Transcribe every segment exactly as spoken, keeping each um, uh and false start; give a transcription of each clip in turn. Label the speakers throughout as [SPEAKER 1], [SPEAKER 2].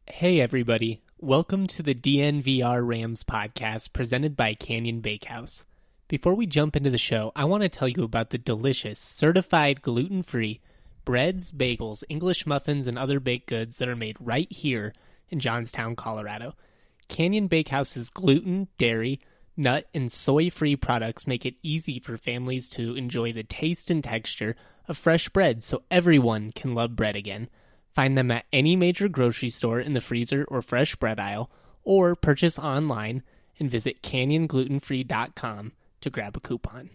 [SPEAKER 1] Hey everybody, welcome to the D N V R Rams podcast presented by Canyon Bakehouse. Before we jump into the show, I want to tell you about the delicious, certified gluten-free breads, bagels, English muffins, and other baked goods that are made right here in Johnstown, Colorado. Canyon Bakehouse's gluten, dairy, nut, and soy-free products make it easy for families to enjoy the taste and texture of fresh bread so everyone can love bread again. Find them at any major grocery store in the freezer or fresh bread aisle, or purchase online and visit canyon gluten free dot com to grab a coupon.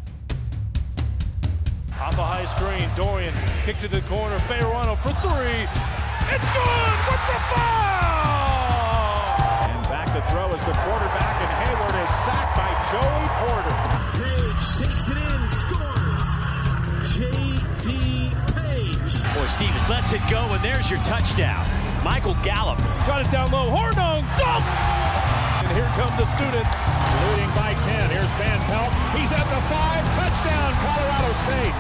[SPEAKER 2] Off a high screen, Dorian kick to the corner, Fayerano for three. It's good with the foul! And back to throw as the quarterback, and Hayward is sacked by Joey Porter.
[SPEAKER 3] Page takes it in, scores. J D
[SPEAKER 4] Boy, Stevens lets it go, and there's your touchdown. Michael Gallup.
[SPEAKER 2] Got it down low. Hornung. Dunk! And here come the students.
[SPEAKER 5] Leading by ten. Here's Van Pelt. He's at the five. Touchdown, Colorado State.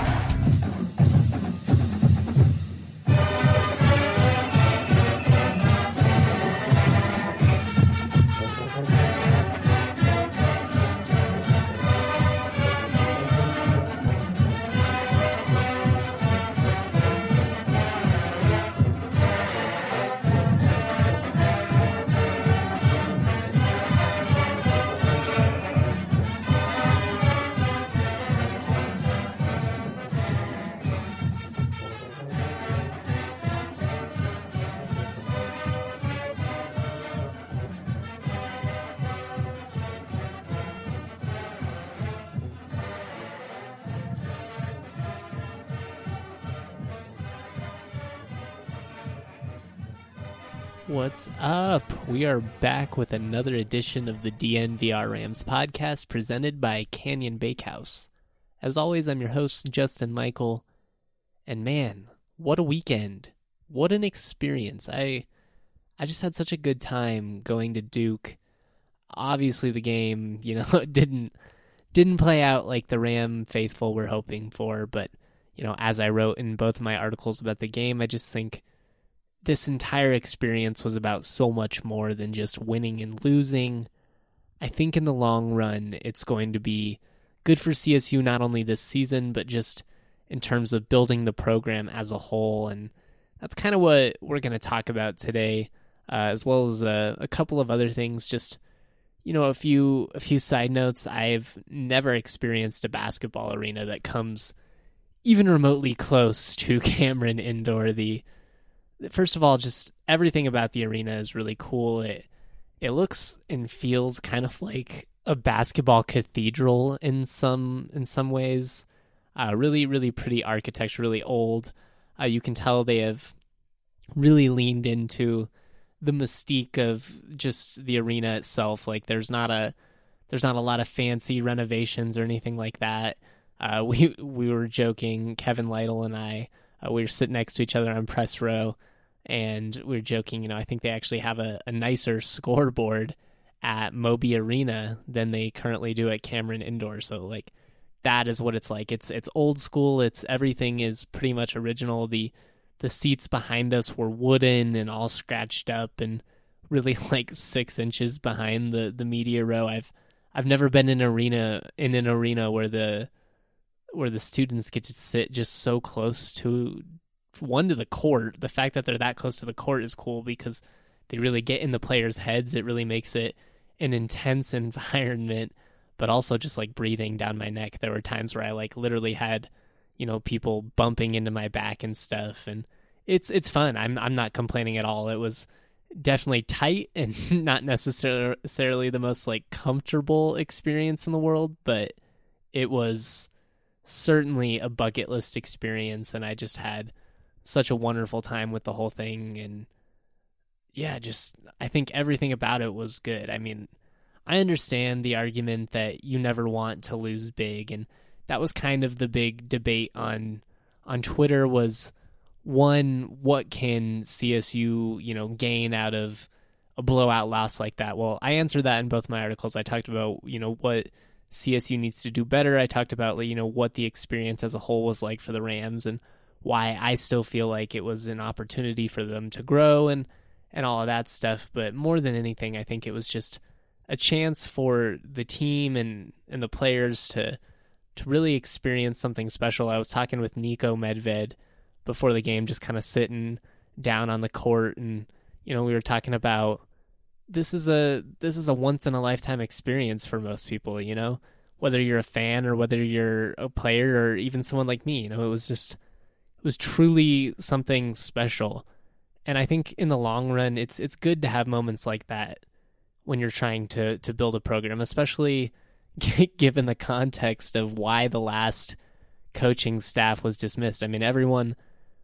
[SPEAKER 1] What's up? We are back with another edition of the D N V R Rams podcast presented by Canyon Bakehouse. As always, I'm your host, Justin Michael, and man, what a weekend. What an experience. I I just had such a good time going to Duke. Obviously the game, you know, didn't didn't play out like the Ram faithful were hoping for, but, you know, as I wrote in both of my articles about the game, I just think this entire experience was about so much more than just winning and losing. I think in the long run, it's going to be good for C S U not only this season, but just in terms of building the program as a whole. And that's kind of what we're going to talk about today, uh, as well as a, a couple of other things. Just, you know, a few a few side notes. I've never experienced a basketball arena that comes even remotely close to Cameron Indoor. The First of all, just everything about the arena is really cool. It it looks and feels kind of like a basketball cathedral in some in some ways. Uh, really, really pretty architecture, really old. Uh, you can tell they have really leaned into the mystique of just the arena itself. Like there's not a there's not a lot of fancy renovations or anything like that. Uh, we we were joking, Kevin Lytle and I. Uh, we were sitting next to each other on press row. And we were joking, you know, I think they actually have a, a nicer scoreboard at Moby Arena than they currently do at Cameron Indoor. So, like, that is what it's like. It's it's old school. It's everything is pretty much original. The the seats behind us were wooden and all scratched up and really like six inches behind the, the media row. I've I've never been in an arena in an arena where the where the students get to sit just so close to. One, to the court. The fact that they're that close to the court is cool because they really get in the players' heads. It really makes it an intense environment, but also just like breathing down my neck. There were times where I like literally had, you know, people bumping into my back and stuff, and it's it's fun. I'm I'm not complaining at all. It was definitely tight and not necessarily the most like comfortable experience in the world, but it was certainly a bucket list experience, and I just had such a wonderful time with the whole thing. And yeah, just I think everything about it was good. I mean, I understand the argument that you never want to lose big, and that was kind of the big debate on on Twitter was, one, what can C S U, you know, gain out of a blowout loss like that? Well, I answered that in both my articles. I talked about, you know, what C S U needs to do better. I talked about, you know, what the experience as a whole was like for the Rams and why I still feel like it was an opportunity for them to grow. And and all of that stuff. But more than anything, I think it was just a chance for the team and, and the players to to really experience something special. I was talking with Niko Medved before the game, just kind of sitting down on the court, and you know, we were talking about this is a this is a once in a lifetime experience for most people, you know, whether you're a fan or whether you're a player or even someone like me. You know, it was just it was truly something special. And I think in the long run, it's it's good to have moments like that when you're trying to to build a program, especially given the context of why the last coaching staff was dismissed. I mean, everyone,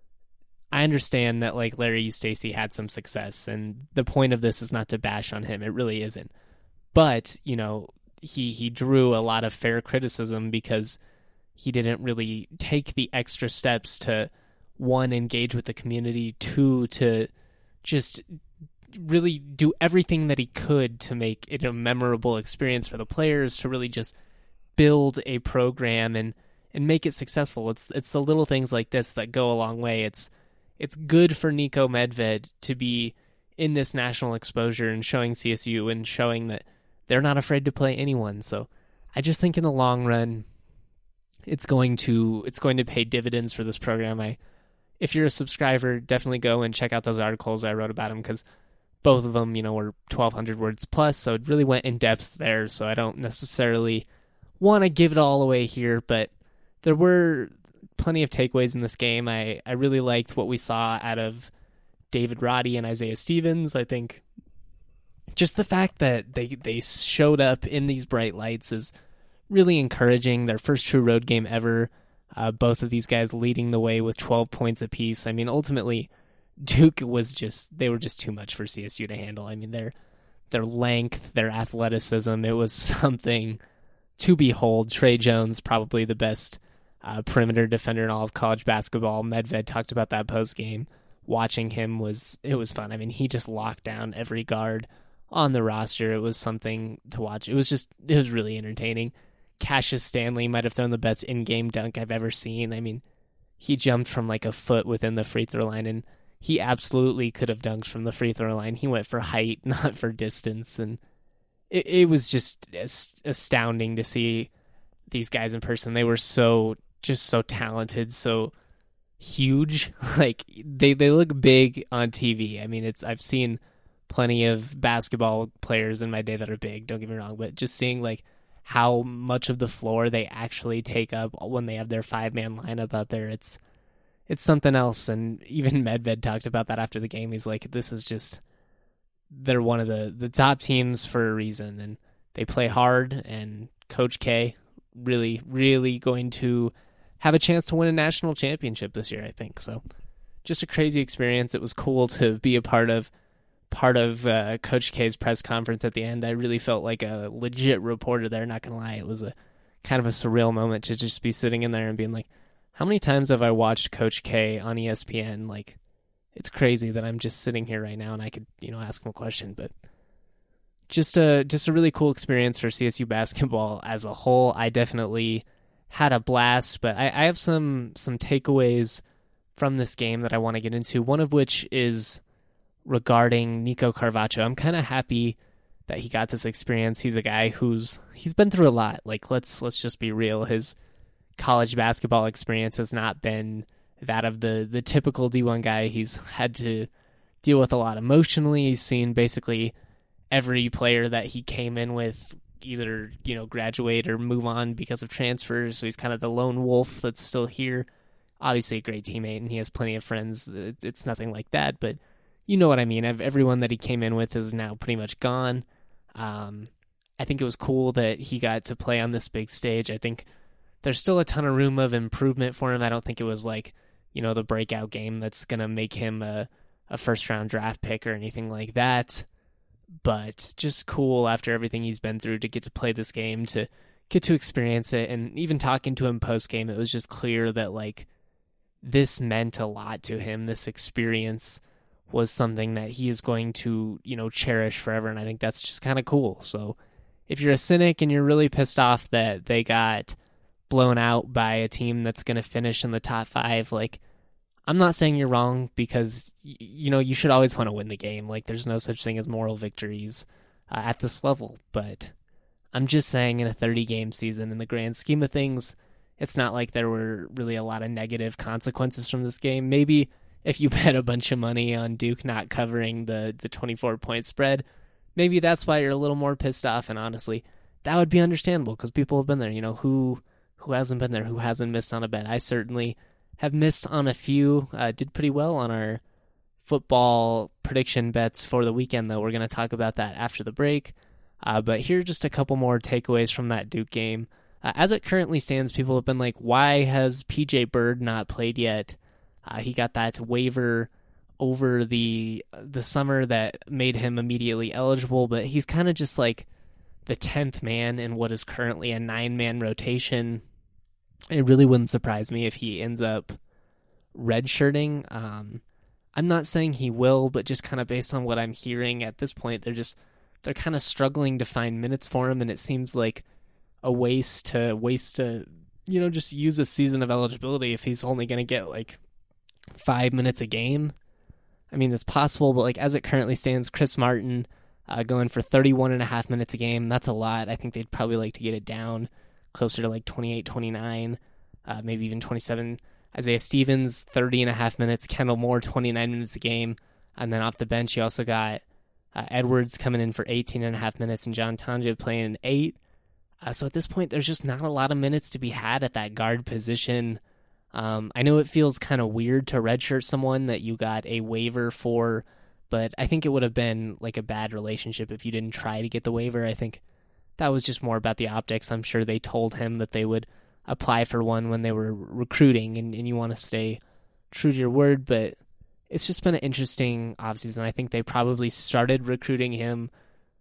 [SPEAKER 1] I understand that like Larry Eustachy had some success, and the point of this is not to bash on him. It really isn't. But, you know, he, he drew a lot of fair criticism because he didn't really take the extra steps to, one, engage with the community, two, to just really do everything that he could to make it a memorable experience for the players, to really just build a program and, and make it successful. It's it's the little things like this that go a long way. It's it's good for Niko Medved to be in this national exposure and showing C S U and showing that they're not afraid to play anyone. So I just think in the long run, it's going to it's going to pay dividends for this program. I, if you're a subscriber, definitely go and check out those articles I wrote about them, because both of them, you know, were twelve hundred words plus, so it really went in depth there. So I don't necessarily want to give it all away here, but there were plenty of takeaways in this game. I, I really liked what we saw out of David Roddy and Isaiah Stevens. I think just the fact that they, they showed up in these bright lights is really encouraging. Their first true road game ever. Uh, both of these guys leading the way with twelve points apiece. I mean, ultimately, Duke was just, they were just too much for C S U to handle. I mean, their their length, their athleticism, it was something to behold. Trey Jones, probably the best uh, perimeter defender in all of college basketball. Medved talked about that post game. Watching him was, it was fun. I mean, he just locked down every guard on the roster. It was something to watch. It was just, it was really entertaining. Cassius Stanley might have thrown the best in-game dunk I've ever seen. I mean, he jumped from like a foot within the free throw line, and he absolutely could have dunked from the free throw line. He went for height, not for distance, and it, it was just astounding to see these guys in person. They were so, just so talented, so huge. Like, they, they look big on T V. I mean, it's I've seen plenty of basketball players in my day that are big, don't get me wrong, but just seeing like how much of the floor they actually take up when they have their five-man lineup out there, it's it's something else. And even Medved talked about that after the game. He's like, this is just, they're one of the, the top teams for a reason, and they play hard, and Coach K really, really going to have a chance to win a national championship this year, I think. So just a crazy experience. It was cool to be a part of part of uh, Coach K's press conference at the end. I really felt like a legit reporter there, not gonna lie. It was a kind of a surreal moment to just be sitting in there and being like, how many times have I watched Coach K on E S P N? Like, it's crazy that I'm just sitting here right now and I could, you know, ask him a question. But just a just a really cool experience for C S U basketball as a whole. I definitely had a blast, but I, I have some some takeaways from this game that I want to get into, one of which is regarding Nico Carvacho. I'm kind of happy that he got this experience. He's a guy who's he's been through a lot. Like, let's let's just be real. His college basketball experience has not been that of the the typical D one guy. He's had to deal with a lot emotionally. He's seen basically every player that he came in with either, you know, graduate or move on because of transfers. So he's kind of the lone wolf that's still here. Obviously a great teammate, and he has plenty of friends. It's nothing like that, but you know what I mean. Everyone that he came in with is now pretty much gone. Um, I think it was cool that he got to play on this big stage. I think there's still a ton of room of improvement for him. I don't think it was like, you know, the breakout game that's going to make him a, a first-round draft pick or anything like that. But just cool after everything he's been through to get to play this game, to get to experience it. And even talking to him post-game, it was just clear that, like, this meant a lot to him. This experience was something that he is going to, you know, cherish forever, and I think that's just kind of cool. So if you're a cynic and you're really pissed off that they got blown out by a team that's going to finish in the top five, like, I'm not saying you're wrong because, you know, you should always want to win the game. Like, there's no such thing as moral victories uh, at this level. But I'm just saying in a thirty-game season, in the grand scheme of things, it's not like there were really a lot of negative consequences from this game. Maybe if you bet a bunch of money on Duke not covering the, the twenty-four point spread, maybe that's why you're a little more pissed off. And honestly, that would be understandable because people have been there. You know, who who hasn't been there? Who hasn't missed on a bet? I certainly have missed on a few. Uh, did pretty well on our football prediction bets for the weekend, though. We're going to talk about that after the break. Uh, but here are just a couple more takeaways from that Duke game. Uh, as it currently stands, people have been like, why has P J Bird not played yet? Uh, he got that waiver over the the summer that made him immediately eligible, but he's kind of just like the tenth man in what is currently a nine-man rotation. It really wouldn't surprise me if he ends up redshirting. Um, I'm not saying he will, but just kind of based on what I'm hearing at this point, they're just they're kind of struggling to find minutes for him, and it seems like a waste to waste to you know just use a season of eligibility if he's only going to get like five minutes a game. I mean, it's possible, but like as it currently stands, Chris Martin uh, going for thirty-one and a half minutes a game. That's a lot. I think they'd probably like to get it down closer to like twenty-eight, twenty-nine, uh, maybe even twenty-seven. Isaiah Stevens, thirty and a half minutes. Kendall Moore, twenty-nine minutes a game. And then off the bench, you also got uh, Edwards coming in for eighteen and a half minutes and John Tonja playing eight. Uh, so at this point, there's just not a lot of minutes to be had at that guard position. Um, I know it feels kind of weird to redshirt someone that you got a waiver for, but I think it would have been like a bad relationship if you didn't try to get the waiver. I think that was just more about the optics. I'm sure they told him that they would apply for one when they were recruiting, and, and you want to stay true to your word, but it's just been an interesting offseason. I think they probably started recruiting him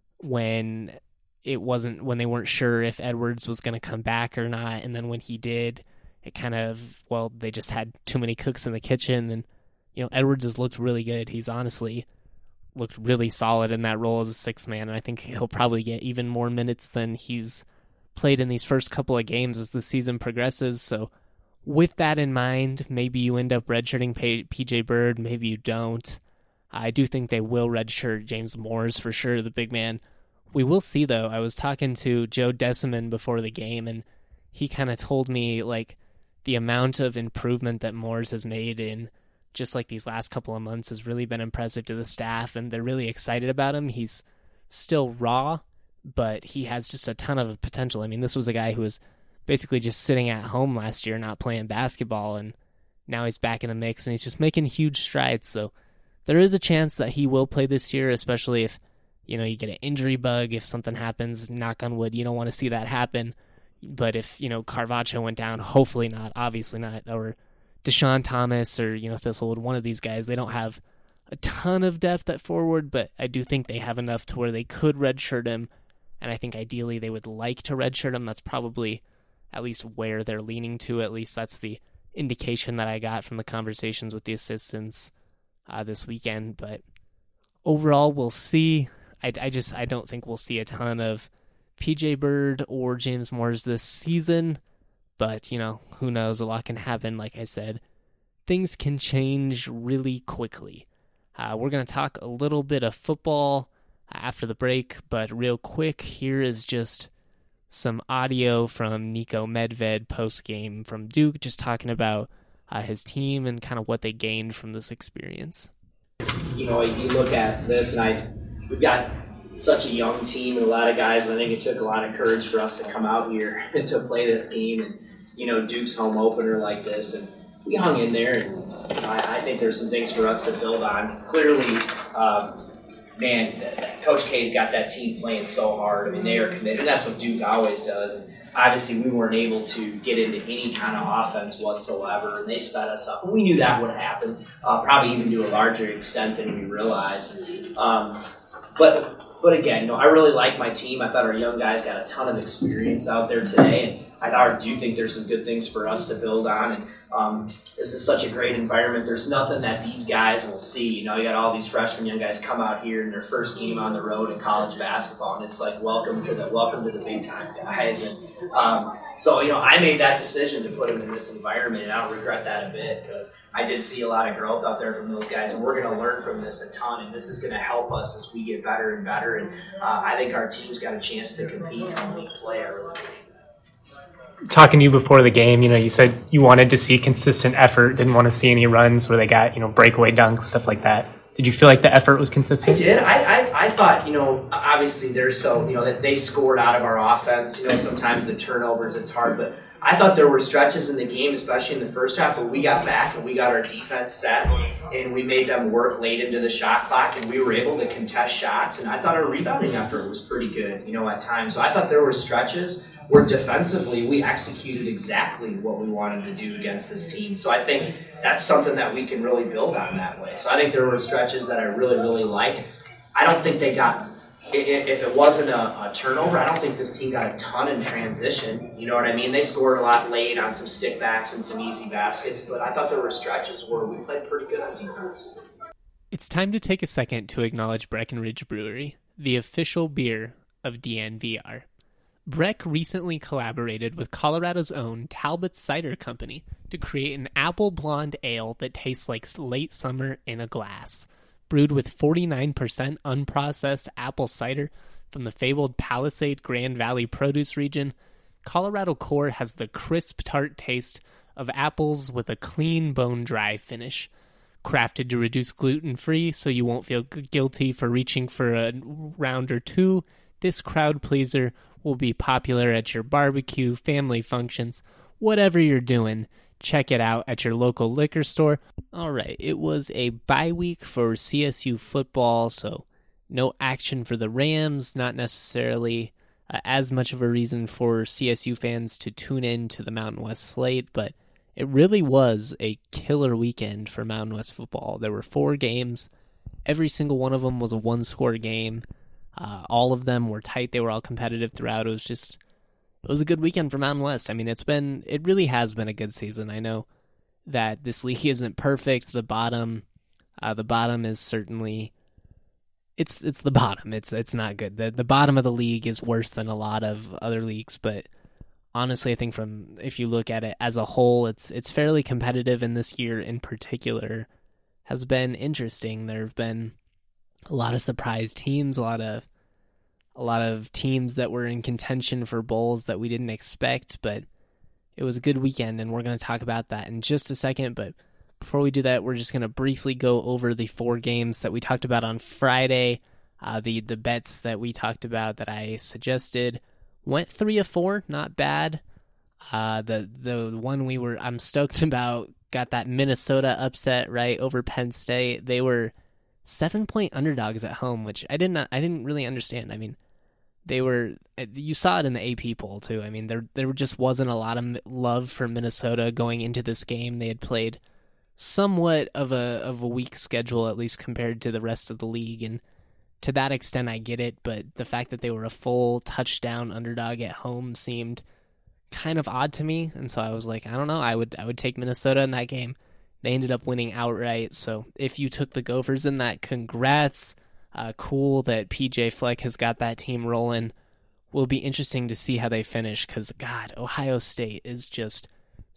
[SPEAKER 1] when it wasn't, when they weren't sure if Edwards was going to come back or not, and then when he did, it kind of, well, they just had too many cooks in the kitchen, and, you know, Edwards has looked really good. He's honestly looked really solid in that role as a sixth man, and I think he'll probably get even more minutes than he's played in these first couple of games as the season progresses. So with that in mind, maybe you end up redshirting P J Bird, maybe you don't. I do think they will redshirt James Moores for sure, the big man. We will see, though. I was talking to Joe Deciman before the game, and he kind of told me, like, the amount of improvement that Moores has made in just like these last couple of months has really been impressive to the staff, and they're really excited about him. He's still raw, but he has just a ton of potential. I mean, this was a guy who was basically just sitting at home last year, not playing basketball, and now he's back in the mix, and he's just making huge strides. So there is a chance that he will play this year, especially if, you know, you get an injury bug, if something happens, knock on wood, you don't want to see that happen. But if, you know, Carvacho went down, hopefully not, obviously not, or Deshaun Thomas or, you know, Thistlewood, one of these guys, they don't have a ton of depth at forward, but I do think they have enough to where they could redshirt him, and I think ideally they would like to redshirt him. That's probably at least where they're leaning to. At least that's the indication that I got from the conversations with the assistants uh, this weekend. But overall, we'll see. I, I just I don't think we'll see a ton of P J Bird or James Moores this season, but, you know, who knows? A lot can happen. Like I said, things can change really quickly. Uh, we're going to talk a little bit of football after the break, but real quick, here is just some audio from Niko Medved post-game from Duke, just talking about uh, his team and kind of what they gained from this experience.
[SPEAKER 6] You know, you look at this, and I we've got such a young team and a lot of guys, and I think it took a lot of courage for us to come out here and to play this game, and, you know, Duke's home opener like this, and we hung in there, and I, I think there's some things for us to build on. Clearly, um, man, Coach K's got that team playing so hard. I mean, they are committed, and that's what Duke always does, and obviously we weren't able to get into any kind of offense whatsoever, and they sped us up. We knew that would happen, uh, probably even to a larger extent than we realized. Um, but But again, you know, I really like my team. I thought our young guys got a ton of experience out there today, and I do think there's some good things for us to build on, and um, this is such a great environment. There's nothing that these guys will see. You know, you got all these freshman young guys come out here in their first game on the road in college basketball, and it's like welcome to the welcome to the big time, guys. And um, so, you know, I made that decision to put them in this environment, and I don't regret that a bit because I did see a lot of growth out there from those guys, and we're going to learn from this a ton, and this is going to help us as we get better and better. And uh, I think our team's got a chance to compete when we play. I really believe.
[SPEAKER 7] Talking to you before the game, you know, you said you wanted to see consistent effort, didn't want to see any runs where they got, you know, breakaway dunks, stuff like that. Did you feel like the effort was consistent?
[SPEAKER 6] I did. I, I, I thought, you know, obviously they're so, you know, that they scored out of our offense. You know, sometimes the turnovers, it's hard, but I thought there were stretches in the game, especially in the first half, where we got back and we got our defense set and we made them work late into the shot clock and we were able to contest shots. And I thought our rebounding effort was pretty good, you know, at times. So I thought there were stretches where defensively we executed exactly what we wanted to do against this team. So I think that's something that we can really build on that way. So I think there were stretches that I really, really liked. I don't think they got, if it wasn't a, a turnover, I don't think this team got a ton in transition. You know what I mean? They scored a lot late on some stickbacks and some easy baskets, but I thought there were stretches where we played pretty good on defense.
[SPEAKER 1] It's time to take a second to acknowledge Breckenridge Brewery, the official beer of D N V R. Breck recently collaborated with Colorado's own Talbot Cider Company to create an apple blonde ale that tastes like late summer in a glass. Brewed with forty-nine percent unprocessed apple cider from the fabled Palisade Grand Valley produce region, Colorado Core has the crisp, tart taste of apples with a clean, bone-dry finish. Crafted to reduce gluten-free so you won't feel guilty for reaching for a round or two, this crowd pleaser will be popular at your barbecue, family functions, whatever you're doing. Check it out at your local liquor store. All right, it was a bye week for C S U football, so no action for the Rams, not necessarily uh, as much of a reason for C S U fans to tune in to the Mountain West slate, but it really was a killer weekend for Mountain West football. There were four games. Every single one of them was a one-score game. Uh, all of them were tight. They were all competitive throughout. It was just, it was a good weekend for Mountain West. I mean, it's been, it really has been a good season. I know that this league isn't perfect. The bottom, uh, the bottom is certainly, it's it's the bottom. It's it's not good. The the bottom of the league is worse than a lot of other leagues. But honestly, I think from if you look at it as a whole, it's it's fairly competitive. And this year in particular has been interesting. There have been a lot of surprise teams, a lot of a lot of teams that were in contention for bowls that we didn't expect, but it was a good weekend, and we're going to talk about that in just a second. But before we do that, we're just going to briefly go over the four games that we talked about on Friday. Uh, the the bets that we talked about that I suggested went three of four, not bad. Uh, the the one we were I'm stoked about got that Minnesota upset right over Penn State. They were seven point underdogs at home, which I didn't I didn't really understand. I mean, they were you saw it in the A P poll too. I mean, there there just wasn't a lot of love for Minnesota going into this game. They had played somewhat of a of a weak schedule, at least compared to the rest of the league, and to that extent I get it, but the fact that they were a full touchdown underdog at home seemed kind of odd to me, and so I was like, I don't know, I would I would take Minnesota in that game. They ended up winning outright, so if you took the Gophers in that, congrats. Uh, cool that P J Fleck has got that team rolling. Will be interesting to see how they finish, because, God, Ohio State is just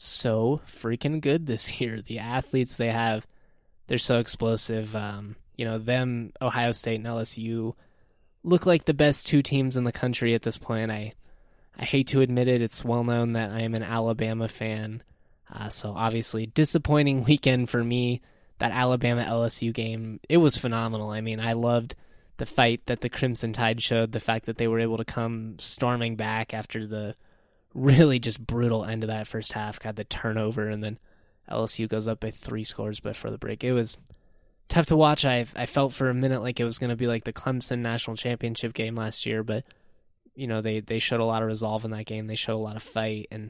[SPEAKER 1] so freaking good this year. The athletes they have, they're so explosive. Um, you know, them, Ohio State and L S U, look like the best two teams in the country at this point. I, I hate to admit it. It's well known that I am an Alabama fan. Uh, so obviously, disappointing weekend for me. That Alabama L S U game, it was phenomenal. I mean, I loved the fight that the Crimson Tide showed, the fact that they were able to come storming back after the really just brutal end of that first half, got the turnover, and then L S U goes up by three scores before the break. It was tough to watch. I I felt for a minute like it was going to be like the Clemson National Championship game last year, but you know, they, they showed a lot of resolve in that game. They showed a lot of fight, and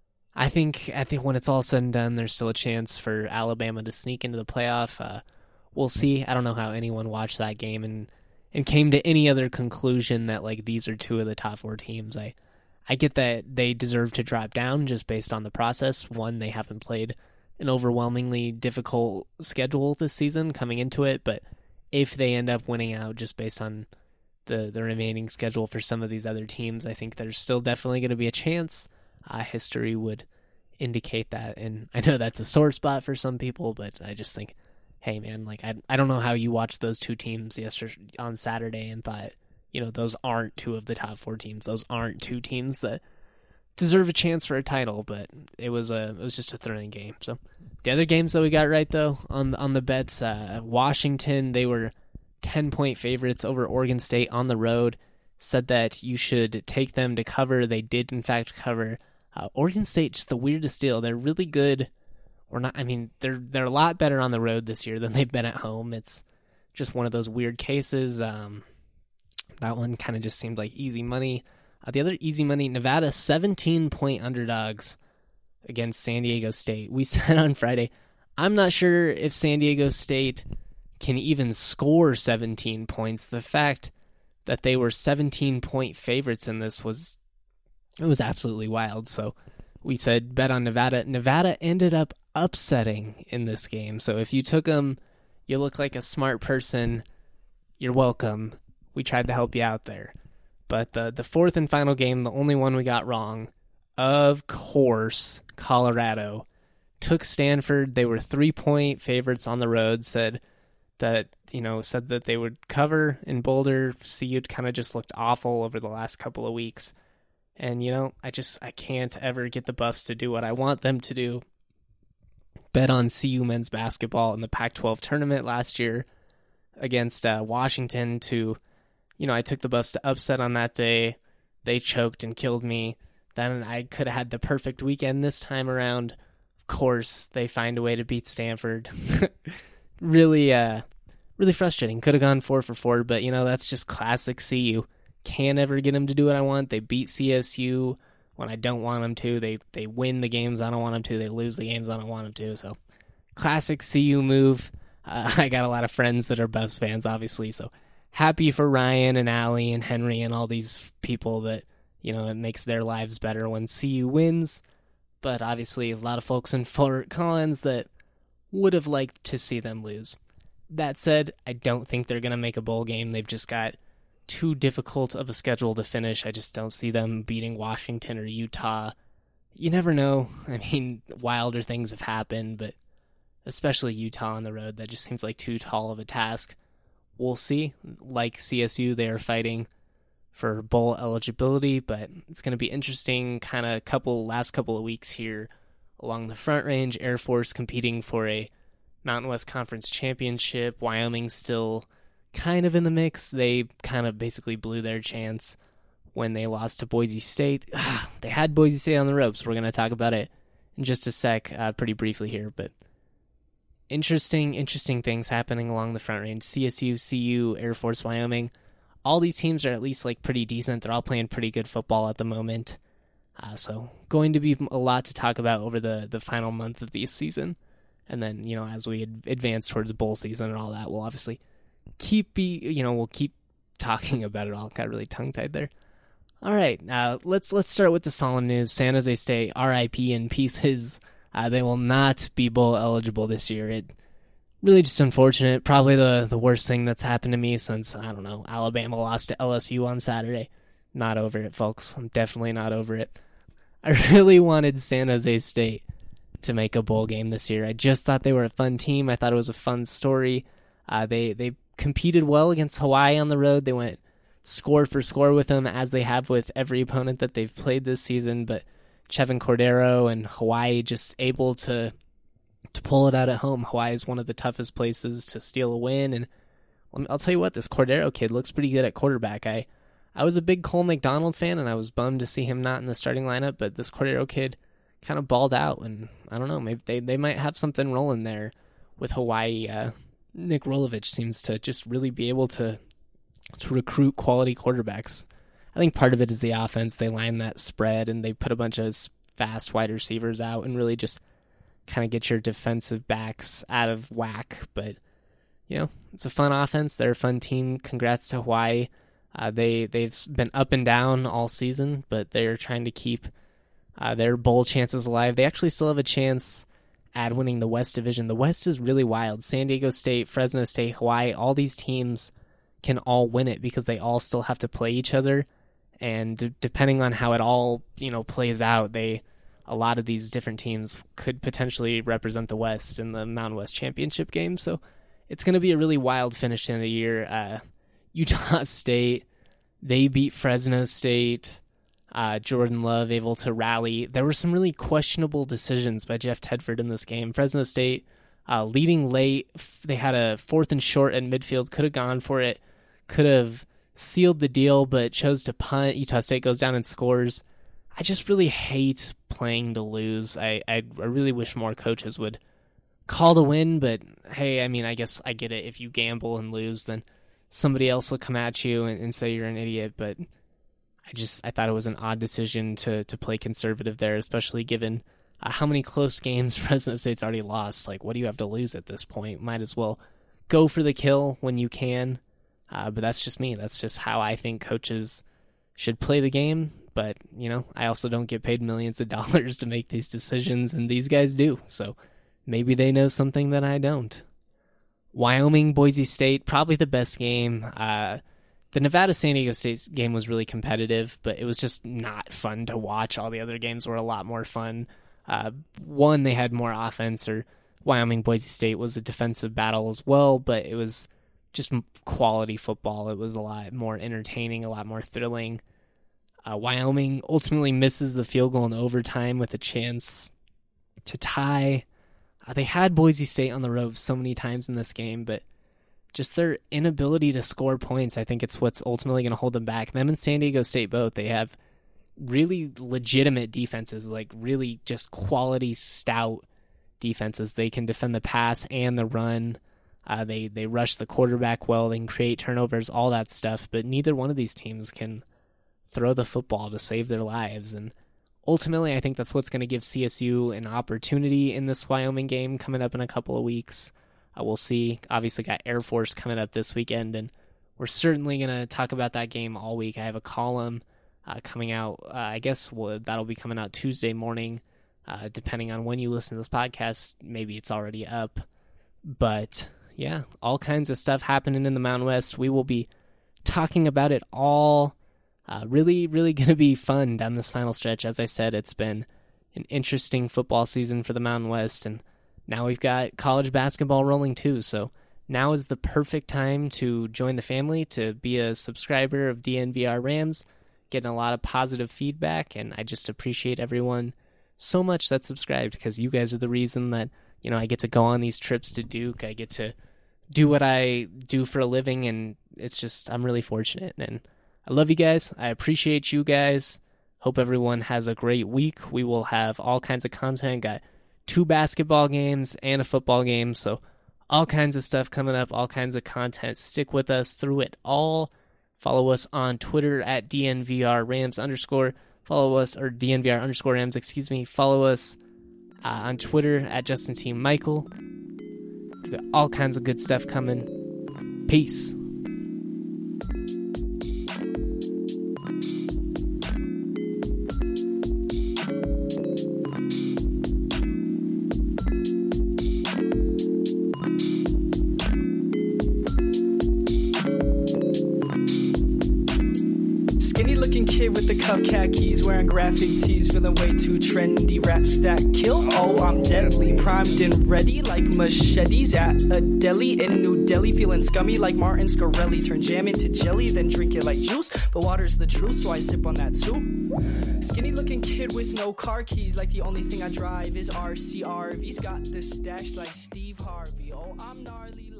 [SPEAKER 1] I think I think when it's all said and done, there's still a chance for Alabama to sneak into the playoff. Uh, we'll see. I don't know how anyone watched that game and, and came to any other conclusion that like these are two of the top four teams. I I get that they deserve to drop down just based on the process. One, they haven't played an overwhelmingly difficult schedule this season coming into it, but if they end up winning out just based on the, the remaining schedule for some of these other teams, I think there's still definitely going to be a chance. Uh, history would indicate that, and I know that's a sore spot for some people, but I just think, hey man, like I I don't know how you watched those two teams yesterday on Saturday and thought, you know, those aren't two of the top four teams. Those aren't two teams that deserve a chance for a title, but it was a it was just a thrilling game. So the other games that we got right though on on the bets, uh, Washington, they were ten point favorites over Oregon State on the road. Said that you should take them to cover. They did in fact cover. Uh, Oregon State, just the weirdest deal. They're really good, or not. I mean, they're they're a lot better on the road this year than they've been at home. It's just one of those weird cases. Um, that one kind of just seemed like easy money. Uh, the other easy money, Nevada, seventeen point underdogs against San Diego State. We said on Friday, I'm not sure if San Diego State can even score seventeen points. The fact that they were seventeen point favorites in this was it was absolutely wild. So we said bet on Nevada. Nevada ended up upsetting in this game. So if you took them, you look like a smart person. You're welcome. We tried to help you out there. But the the fourth and final game, the only one we got wrong, of course, Colorado took Stanford. They were three-point favorites on the road, said that, you know, said that they would cover in Boulder. C U kind of just looked awful over the last couple of weeks. And, you know, I just, I can't ever get the Buffs to do what I want them to do. Bet on C U men's basketball in the Pac twelve tournament last year against uh, Washington to, you know, I took the Buffs to upset on that day. They choked and killed me. Then I could have had the perfect weekend this time around. Of course, they find a way to beat Stanford. really, uh, really frustrating. Could have gone four for four, but, you know, that's just classic C U. Can't ever get them to do what I want. They beat C S U when I don't want them to. They they win the games I don't want them to. They lose the games I don't want them to. So, classic C U move. Uh, I got a lot of friends that are Buffs fans, obviously, so happy for Ryan and Allie and Henry and all these people that, you know, it makes their lives better when C U wins. But obviously, a lot of folks in Fort Collins that would have liked to see them lose. That said, I don't think they're going to make a bowl game. They've just got too difficult of a schedule to finish. I just don't see them beating Washington or Utah. You never know. I mean, wilder things have happened, but especially Utah on the road, that just seems like too tall of a task. We'll see. Like C S U, they are fighting for bowl eligibility, but it's going to be interesting kind of couple last couple of weeks here along the Front Range. Air Force competing for a Mountain West Conference championship. Wyoming still kind of in the mix. They kind of basically blew their chance when they lost to Boise State. They had Boise State on the ropes. We're going to talk about it in just a sec, uh, pretty briefly here, but interesting, interesting things happening along the Front Range. C S U, C U, Air Force, Wyoming. All these teams are at least like pretty decent. They're all playing pretty good football at the moment. Uh, so going to be a lot to talk about over the, the final month of the season. And then, you know, as we advance towards bowl season and all that, we'll obviously keep be you know we'll keep talking about it all. Got really tongue tied there. All right, uh, let's let's start with the solemn news. San Jose State, R I P in pieces. Uh, they will not be bowl eligible this year. It really just unfortunate. Probably the the worst thing that's happened to me since, I don't know, Alabama lost to L S U on Saturday. Not over it, folks. I'm definitely not over it. I really wanted San Jose State to make a bowl game this year. I just thought they were a fun team. I thought it was a fun story. Uh, they they competed well against Hawaii on the road. They went score for score with them, as they have with every opponent that they've played this season. But Chevin Cordero and Hawaii just able to to pull it out at home. Hawaii is one of the toughest places to steal a win. And I'll tell you what, this Cordero kid looks pretty good at quarterback. I, I was a big Cole McDonald fan, and I was bummed to see him not in the starting lineup. But this Cordero kid kind of balled out. And I don't know, maybe they, they might have something rolling there with Hawaii. Uh, Nick Rolovich seems to just really be able to to recruit quality quarterbacks. I think part of it is the offense. They line that spread and they put a bunch of fast wide receivers out and really just kind of get your defensive backs out of whack. But, you know, it's a fun offense. They're a fun team. Congrats to Hawaii. Uh, they, they've been up and down all season, but they're trying to keep uh, their bowl chances alive. They actually still have a chance at winning the West Division. The West is really wild. San Diego State, Fresno State, Hawaii, all these teams can all win it because they all still have to play each other. And d- depending on how it all, you know, plays out, they a lot of these different teams could potentially represent the West in the Mountain West Championship game. So it's going to be a really wild finish to the year. Uh, Utah State, they beat Fresno State. Uh, Jordan Love able to rally. There were some really questionable decisions by Jeff Tedford in this game. Fresno State uh, leading late. They had a fourth and short at midfield. Could have gone for it. Could have sealed the deal, but chose to punt. Utah State goes down and scores. I just really hate playing to lose. I, I, I really wish more coaches would call to win, but hey, I mean, I guess I get it. If you gamble and lose, then somebody else will come at you and, and say you're an idiot, but I just I thought it was an odd decision to to play conservative there, especially given uh, how many close games Fresno State's already lost. Like, what do you have to lose at this point? Might as well go for the kill when you can. Uh, but that's just me. That's just how I think coaches should play the game. But, you know, I also don't get paid millions of dollars to make these decisions, and these guys do. So maybe they know something that I don't. Wyoming, Boise State, probably the best game. Uh, the Nevada-San Diego State game was really competitive, but it was just not fun to watch. All the other games were a lot more fun. Uh, one, they had more offense, or Wyoming-Boise State was a defensive battle as well, but it was just quality football. It was a lot more entertaining, a lot more thrilling. Uh, Wyoming ultimately misses the field goal in overtime with a chance to tie. Uh, they had Boise State on the ropes so many times in this game, but just their inability to score points, I think it's what's ultimately going to hold them back. Them and San Diego State both, they have really legitimate defenses, like really just quality, stout defenses. They can defend the pass and the run. Uh, they, they rush the quarterback well. They can create turnovers, all that stuff, but neither one of these teams can throw the football to save their lives. And ultimately, I think that's what's going to give C S U an opportunity in this Wyoming game coming up in a couple of weeks. Uh, we'll see. Obviously, got Air Force coming up this weekend, and we're certainly going to talk about that game all week. I have a column uh, coming out. Uh, I guess we'll, that'll be coming out Tuesday morning, uh, depending on when you listen to this podcast. Maybe it's already up. But yeah, all kinds of stuff happening in the Mountain West. We will be talking about it all. Uh, really, really going to be fun down this final stretch. As I said, it's been an interesting football season for the Mountain West, and now we've got college basketball rolling too. So now is the perfect time to join the family, to be a subscriber of D N V R Rams, getting a lot of positive feedback, and I just appreciate everyone so much that's subscribed, because you guys are the reason that, you know, I get to go on these trips to Duke. I get to do what I do for a living, and it's just, I'm really fortunate, and I love you guys. I appreciate you guys. Hope everyone has a great week. We will have all kinds of content. Got two basketball games and a football game, so all kinds of stuff coming up, all kinds of content. Stick with us through it all. Follow us on Twitter at D N V R Rams underscore. Follow us, or D N V R underscore Rams, excuse me. Follow us uh, on Twitter at Justin T. Michael. We've got all kinds of good stuff coming. Peace.
[SPEAKER 8] With the cuff khakis, wearing graphic tees, feeling way too trendy. Raps that kill, oh I'm deadly, primed and ready like machetes at a deli in New Delhi. Feeling scummy like Martin Scarelli, turn jam into jelly, then drink it like juice. But water's the truth, so I sip on that too. Skinny looking kid with no car keys, like the only thing I drive is R C R V's. Got the stash like Steve Harvey, oh I'm gnarly.